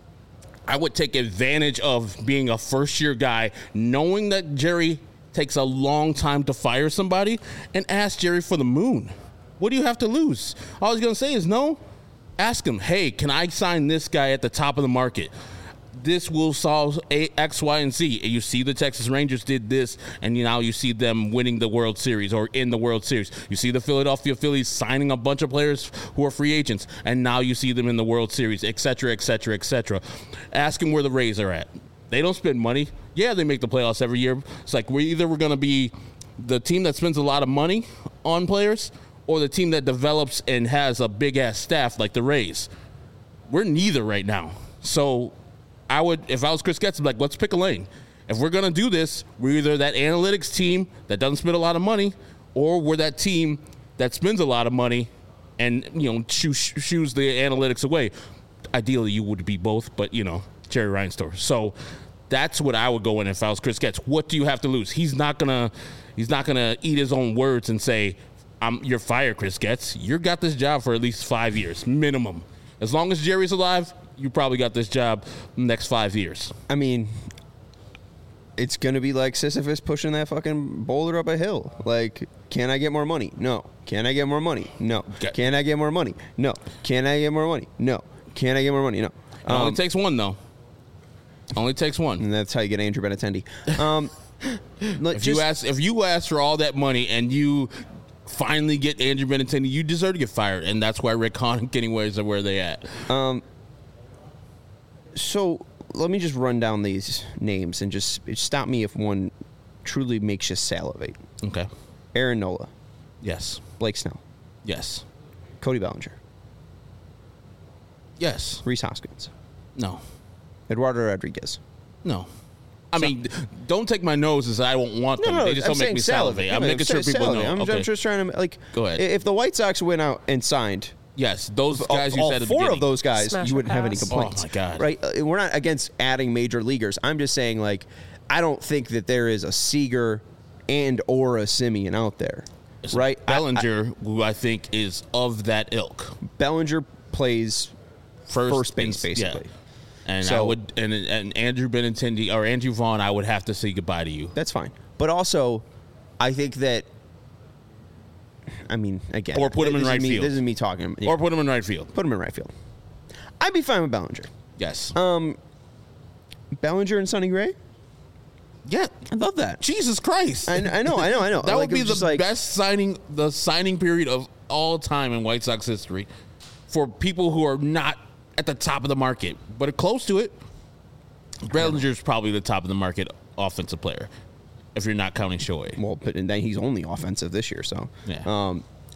I would take advantage of being a first-year guy, knowing that Jerry takes a long time to fire somebody, and ask Jerry for the moon. What do you have to lose? All he's going to say is no. Ask him, hey, can I sign this guy at the top of the market? This will solve X, Y, and Z. And you see the Texas Rangers did this, and now you see them winning the World Series or in the World Series. You see the Philadelphia Phillies signing a bunch of players who are free agents, and now you see them in the World Series, et cetera, et cetera, et cetera. Ask him where the Rays are at. They don't spend money. Yeah, they make the playoffs every year. It's like we're going to be the team that spends a lot of money on players, or the team that develops and has a big-ass staff like the Rays. We're neither right now. So I would, if I was Chris Getz, I'd be like, let's pick a lane. If we're going to do this, we're either that analytics team that doesn't spend a lot of money, or we're that team that spends a lot of money and, shoos the analytics away. Ideally, you would be both, but, Jerry Reinsdorf. So that's what I would go in if I was Chris Getz. What do you have to lose? He's not gonna eat his own words and say, you're fired, Chris Getz. You got this job for at least 5 years, minimum. As long as Jerry's alive, you probably got this job the next 5 years. I mean, it's going to be like Sisyphus pushing that fucking boulder up a hill. Like, can I get more money? No. Can I get more money? No. Can I get more money? No. Can I get more money? No. Can I get more money? No. It only takes one, though. Only takes one. And that's how you get Andrew Benintendi. If you ask for all that money and you finally get Andrew Benintendi, you deserve to get fired, and that's why Rick Hahn and Kenny Williams are where they at. So let me just run down these names and just stop me if one truly makes you salivate. Okay. Aaron Nola. Yes. Blake Snell. Yes. Cody Bellinger. Yes. Rhys Hoskins. No. Eduardo Rodriguez. No. I mean, don't take my nose and say I won't want them. They just don't make me salivate. I'm making sure people know. I'm just trying to, go ahead. If the White Sox went out and signed, yes, those guys you said at the beginning. All 4 of those guys, you wouldn't have any complaints. Oh, my God. Right? We're not against adding major leaguers. I'm just saying, I don't think that there is a Seager and or a Semien out there. Right? Bellinger, who I think is of that ilk. Bellinger plays first base, basically. Yeah. And so, I would, and Andrew Benintendi or Andrew Vaughn, I would have to say goodbye to you. That's fine. But also, I think that, I mean, again, or put him in right field. This is me talking. Yeah. Or put him in right field. Put him in right field. I'd be fine with Bellinger. Yes. Bellinger and Sonny Gray. Yeah, I love that. Jesus Christ! I know. That would be the best signing period of all time in White Sox history for people who are not at the top of the market, but are close to it. Bellinger's probably the top of the market offensive player, if you're not counting Shohei. Well, but and then he's only offensive this year, so yeah.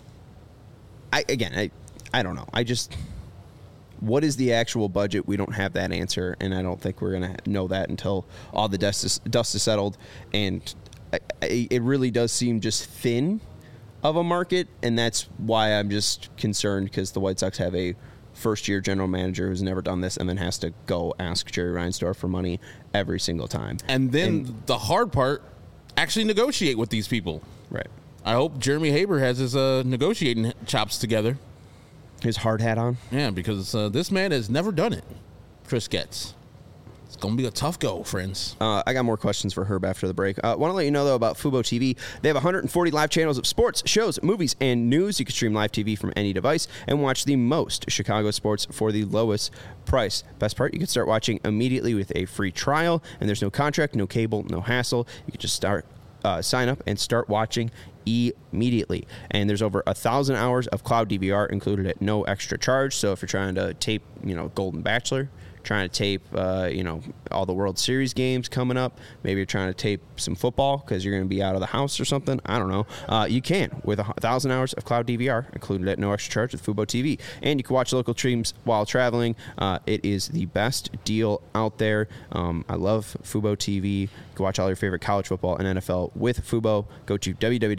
I don't know. What is the actual budget? We don't have that answer, and I don't think we're going to know that until all the dust is settled. And it really does seem just thin of a market, and that's why I'm just concerned, because the White Sox have a first-year general manager who's never done this and then has to go ask Jerry Reinsdorf for money every single time. And then the hard part, actually negotiate with these people. Right. I hope Jeremy Haber has his negotiating chops together. His hard hat on? Yeah, because this man has never done it. Chris Getz. It's going to be a tough go, friends. I got more questions for Herb after the break. Want to let you know, though, about Fubo TV. They have 140 live channels of sports, shows, movies, and news. You can stream live TV from any device and watch the most Chicago sports for the lowest price. Best part, you can start watching immediately with a free trial, and there's no contract, no cable, no hassle. You can just sign up and start watching immediately. And there's over 1,000 hours of cloud DVR included at no extra charge. So if you're trying to tape, Golden Bachelor, trying to tape, all the World Series games coming up, maybe you're trying to tape some football because you're going to be out of the house or something, I don't know. You can with 1,000 hours of cloud DVR included at no extra charge with Fubo TV. And you can watch local streams while traveling. It is the best deal out there. I love Fubo TV. You can watch all your favorite college football and NFL with Fubo. Go to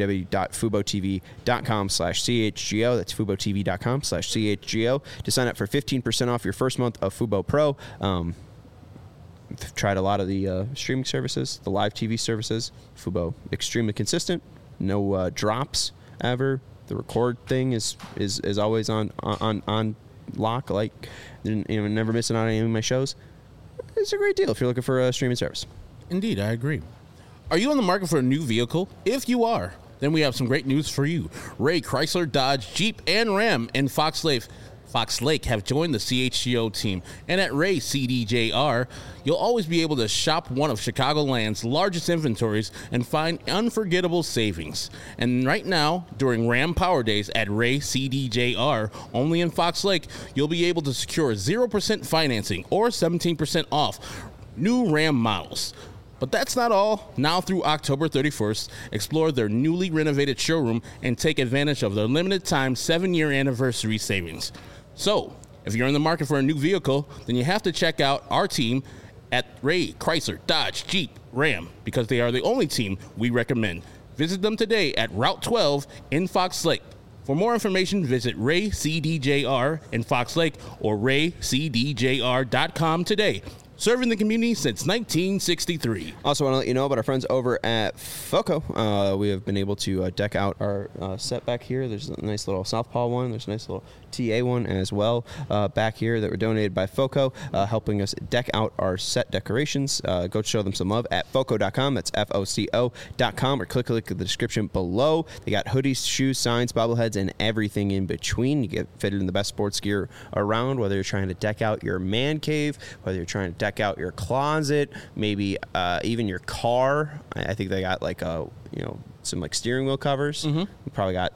www.FuboTV.com/CHGO. That's FuboTV.com/CHGO to sign up for 15% off your first month of Fubo Pro. Tried a lot of the streaming services, the live TV services. Fubo, extremely consistent. No drops ever. The record thing is always on lock. Like, never missing out on any of my shows. It's a great deal if you're looking for a streaming service. Indeed, I agree. Are you on the market for a new vehicle? If you are, then we have some great news for you. Ray Chrysler, Dodge, Jeep, and Ram in Fox Lake have joined the CHGO team. And at Ray CDJR, you'll always be able to shop one of Chicagoland's largest inventories and find unforgettable savings. And right now, during Ram Power Days at Ray CDJR, only in Fox Lake, you'll be able to secure 0% financing or 17% off new Ram models. But that's not all. Now through October 31st, explore their newly renovated showroom and take advantage of their limited time 7-year anniversary savings. So, if you're in the market for a new vehicle, then you have to check out our team at Ray Chrysler, Dodge, Jeep, Ram, because they are the only team we recommend. Visit them today at Route 12 in Fox Lake. For more information, visit Ray CDJR in Fox Lake or raycdjr.com today. Serving the community since 1963. Also want to let you know about our friends over at FOCO. We have been able to deck out our set back here. There's a nice little Southpaw one. There's a nice little TA one as well back here that were donated by FOCO, helping us deck out our set decorations. Go show them some love at FOCO.com. That's FOCO.com, or click the description below. They got hoodies, shoes, signs, bobbleheads, and everything in between. You get fitted in the best sports gear around, whether you're trying to deck out your man cave, whether you're trying to deck out your closet, maybe even your car. I think they got some steering wheel covers. Mm-hmm. We probably got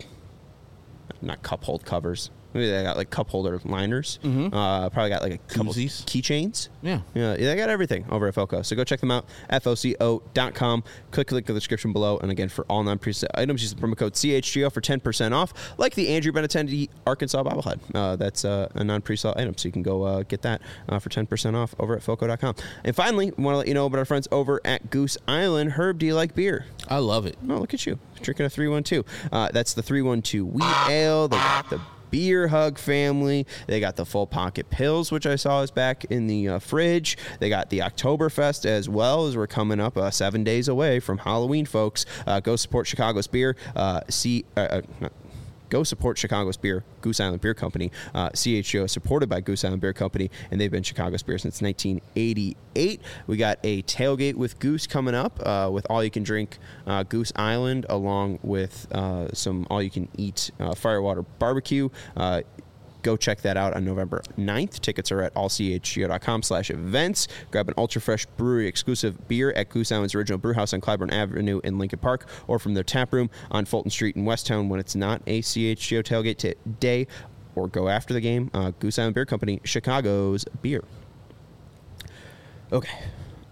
not cup hold covers. Maybe they got cup holder liners. Mm-hmm. Probably got a couple keychains. Yeah, they got everything over at FOCO. So go check them out, FOCO.com. Click the link in the description below. And again, for all non-preset items, use the promo code CHGO for 10% off, like the Andrew Benintendi Arkansas bobblehead. That's a non-preset item, so you can go get that for 10% off over at FOCO.com. And finally, we want to let you know about our friends over at Goose Island. Herb, do you like beer? I love it. Oh, look at you. Drinking a 312. That's the 312 Wheat Ale. They got the Beer Hug family. They got the Full Pocket Pills, which I saw is back in the fridge. They got the Oktoberfest as well, as we're coming up 7 days away from Halloween, folks. Go support Chicago's beer. go support Chicago's beer, Goose Island Beer Company. CHGO is supported by Goose Island Beer Company, and they've been Chicago's beer since 1988. We got a tailgate with Goose coming up with all-you-can-drink Goose Island, along with some all-you-can-eat Firewater Barbecue. Go check that out on November 9th. Tickets are at allchgo.com/events. Grab an ultra-fresh brewery-exclusive beer at Goose Island's original brewhouse on Clybourne Avenue in Lincoln Park, or from their tap room on Fulton Street in Westtown when it's not a CHGO tailgate today, or go after the game. Goose Island Beer Company, Chicago's beer. Okay.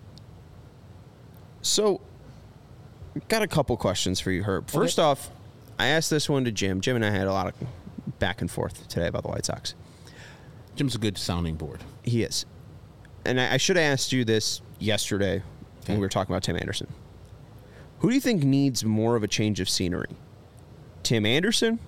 So, got a couple questions for you, Herb. First off, I asked this one to Jim. Jim and I had a lot of back and forth today about the White Sox. Jim's a good sounding board. He is. And I should have asked you this yesterday when we were talking about Tim Anderson. Who do you think needs more of a change of scenery? Tim Anderson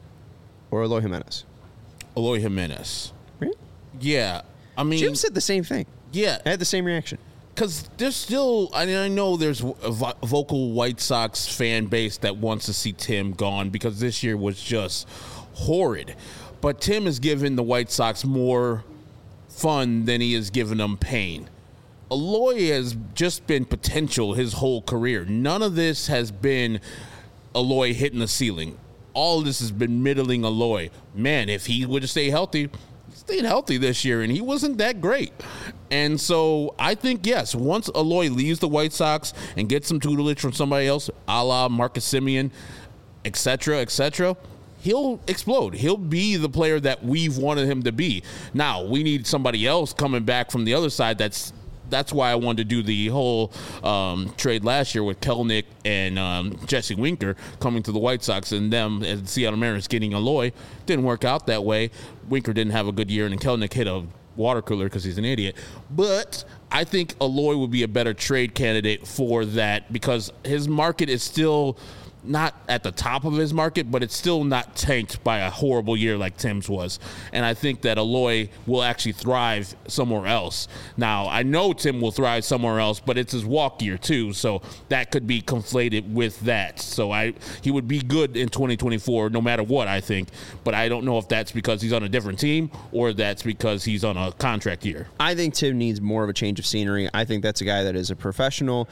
or Eloy Jimenez? Eloy Jimenez. Really? Yeah. I mean, Jim said the same thing. Yeah. I had the same reaction. Because there's still, I know there's a vocal White Sox fan base that wants to see Tim gone because this year was just horrid. But Tim has given the White Sox more fun than he has given them pain. Eloy has just been potential his whole career. None of this has been Eloy hitting the ceiling. All of this has been middling Eloy. Man, if he would have stayed healthy this year, and he wasn't that great. And so I think, yes, once Eloy leaves the White Sox and gets some tutelage from somebody else, a la Marcus Semien, et cetera, he'll explode. He'll be the player that we've wanted him to be. Now, we need somebody else coming back from the other side. That's why I wanted to do the whole trade last year with Kelenic and Jesse Winker coming to the White Sox, and them as the Seattle Mariners getting Eloy. Didn't work out that way. Winker didn't have a good year, and Kelenic hit a water cooler because he's an idiot. But I think Eloy would be a better trade candidate for that because his market is still not at the top of his market, but it's still not tanked by a horrible year like Tim's was. And I think that Eloy will actually thrive somewhere else. Now, I know Tim will thrive somewhere else, but it's his walk year too, so that could be conflated with that. So he would be good in 2024 no matter what, I think. But I don't know if that's because he's on a different team or that's because he's on a contract year. I think Tim needs more of a change of scenery. I think that's a guy that is a professional,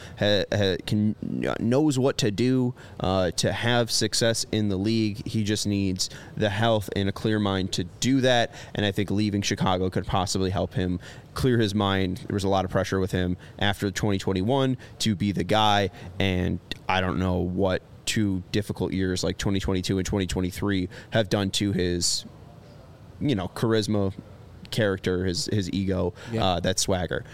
knows what to do to have success in the league. He just needs the health and a clear mind to do that, and I think leaving Chicago could possibly help him clear his mind. There was a lot of pressure with him after 2021 to be the guy, and I don't know what 2 difficult years like 2022 and 2023 have done to his, charisma, character, his ego, that swagger.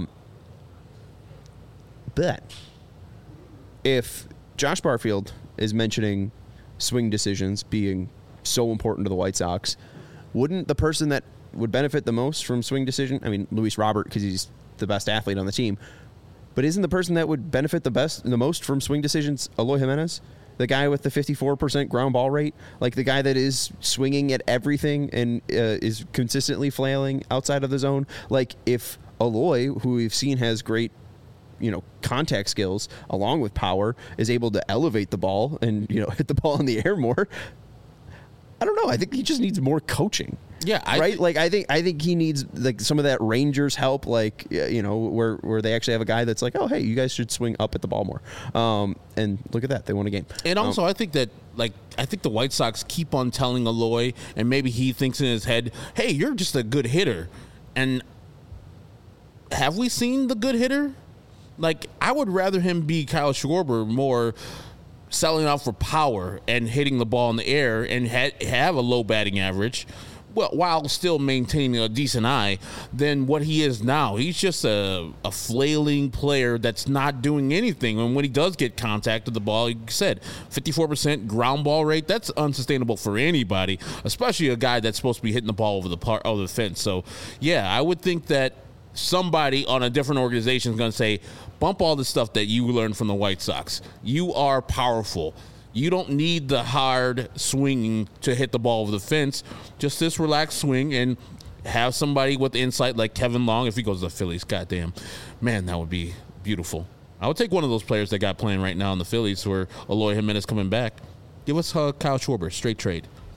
But if Josh Barfield is mentioning swing decisions being so important to the White Sox, wouldn't the person that would benefit the most from swing decision, I mean, Luis Robert, because he's the best athlete on the team, but isn't the person that would benefit the most from swing decisions Eloy Jimenez? The guy with the 54% ground ball rate, like the guy that is swinging at everything and is consistently flailing outside of the zone. Like if Eloy, who we've seen has great contact skills along with power, is able to elevate the ball and, hit the ball in the air more. I don't know. I think he just needs more coaching. Yeah. I think he needs like some of that Rangers help, like, where they actually have a guy that's like, oh, hey, you guys should swing up at the ball more. And look at that. They won a game. And also I think that, I think the White Sox keep on telling Eloy, and maybe he thinks in his head, hey, you're just a good hitter. And have we seen the good hitter? I would rather him be Kyle Schwarber, more selling out for power and hitting the ball in the air and have a low batting average, while still maintaining a decent eye, than what he is now. He's just a flailing player that's not doing anything. And when he does get contact with the ball, like you said, 54% ground ball rate, that's unsustainable for anybody, especially a guy that's supposed to be hitting the ball over the fence. So, yeah, I would think that somebody on a different organization is going to say, bump all the stuff that you learned from the White Sox. You are powerful. You don't need the hard swinging to hit the ball over the fence. Just this relaxed swing, and have somebody with insight like Kevin Long. If he goes to the Phillies, goddamn, man, that would be beautiful. I would take one of those players that got playing right now in the Phillies, where Eloy Jimenez coming back. Give us Kyle Schwarber, straight trade.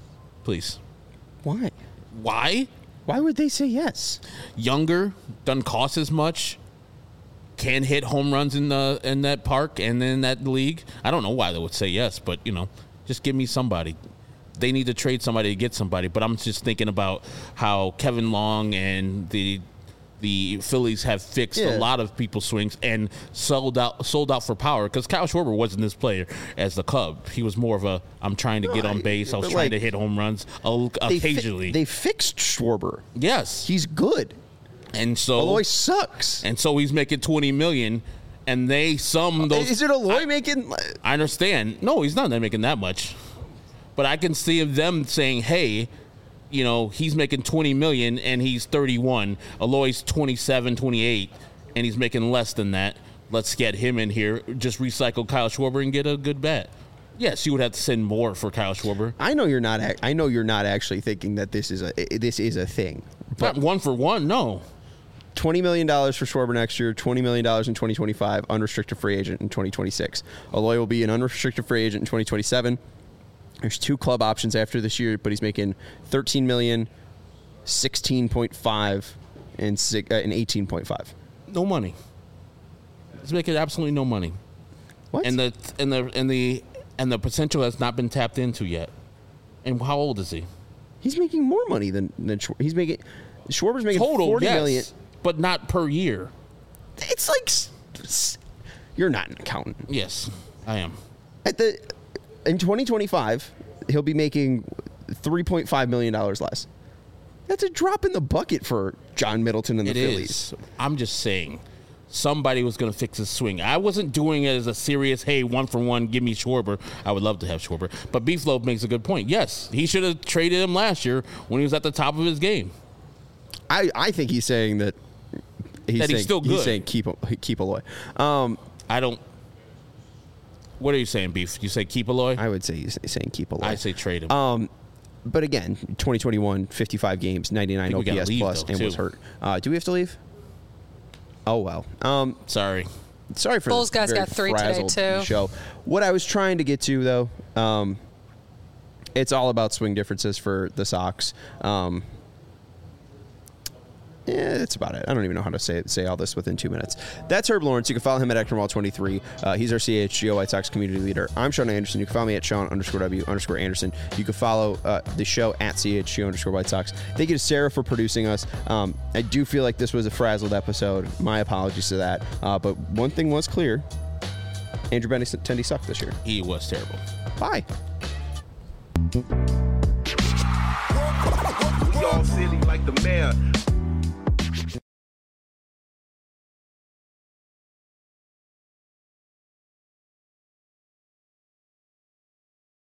Please. Why? Why? Why would they say yes? Younger, doesn't cost as much, can hit home runs in that park and in that league. I don't know why they would say yes, but, just give me somebody. They need to trade somebody to get somebody, but I'm just thinking about how Kevin Long and the Phillies have fixed a lot of people's swings and sold out for power, because Kyle Schwarber wasn't this player as the Cub. He was more of I'm trying to get on base. I was trying to hit home runs occasionally. They fixed Schwarber. Yes. He's good. And so Eloy sucks. And so he's making $20 million, and Is it Eloy making? I understand. No, he's not making that much. But I can see them saying, hey, he's making $20 million and he's 31. Eloy's 27, 28, and he's making less than that. Let's get him in here. Just recycle Kyle Schwarber and get a good bat. Yes, you would have to send more for Kyle Schwarber. I know you're not actually thinking that this is a thing. But not one for one, no. $20 million for Schwarber next year, $20 million in 2025, unrestricted free agent in 2026. Eloy will be an unrestricted free agent in 2027. There's 2 club options after this year, but he's making $13 million, 16.5, and 18.5. No money. He's making absolutely no money. What? And the potential has not been tapped into yet. And how old is he? He's making more money than he's making. Schwarber's making total, $40 million, but not per year. It's like you're not an accountant. Yes, I am. In 2025, he'll be making $3.5 million less. That's a drop in the bucket for John Middleton and the Phillies. I'm just saying, somebody was going to fix his swing. I wasn't doing it as a serious, hey, 1 for 1, give me Schwarber. I would love to have Schwarber. But Beefloaf makes a good point. Yes, he should have traded him last year when he was at the top of his game. I think he's saying that he's still good. He's saying keep Eloy. I don't. What are you saying, Beef? You say keep Eloy? I would say he's saying keep Eloy. I say trade him. But again, 2021, 55 games, 99 OPS plus, and was hurt. Do we have to leave? Oh, well. Sorry for Bulls guys got 3 today, too. Show. What I was trying to get to, though, it's all about swing differences for the Sox. Yeah, that's about it. I don't even know how to say all this within 2 minutes. That's Herb Lawrence. You can follow him at Ekronwall23. He's our CHGO White Sox community leader. I'm Sean Anderson. You can follow me at Sean_W_Anderson. You can follow the show at CHGO_White Sox. Thank you to Sarah for producing us. I do feel like this was a frazzled episode. My apologies to that. But one thing was clear. Andrew Benintendi sucked this year. He was terrible. Bye. We all silly like the mayor.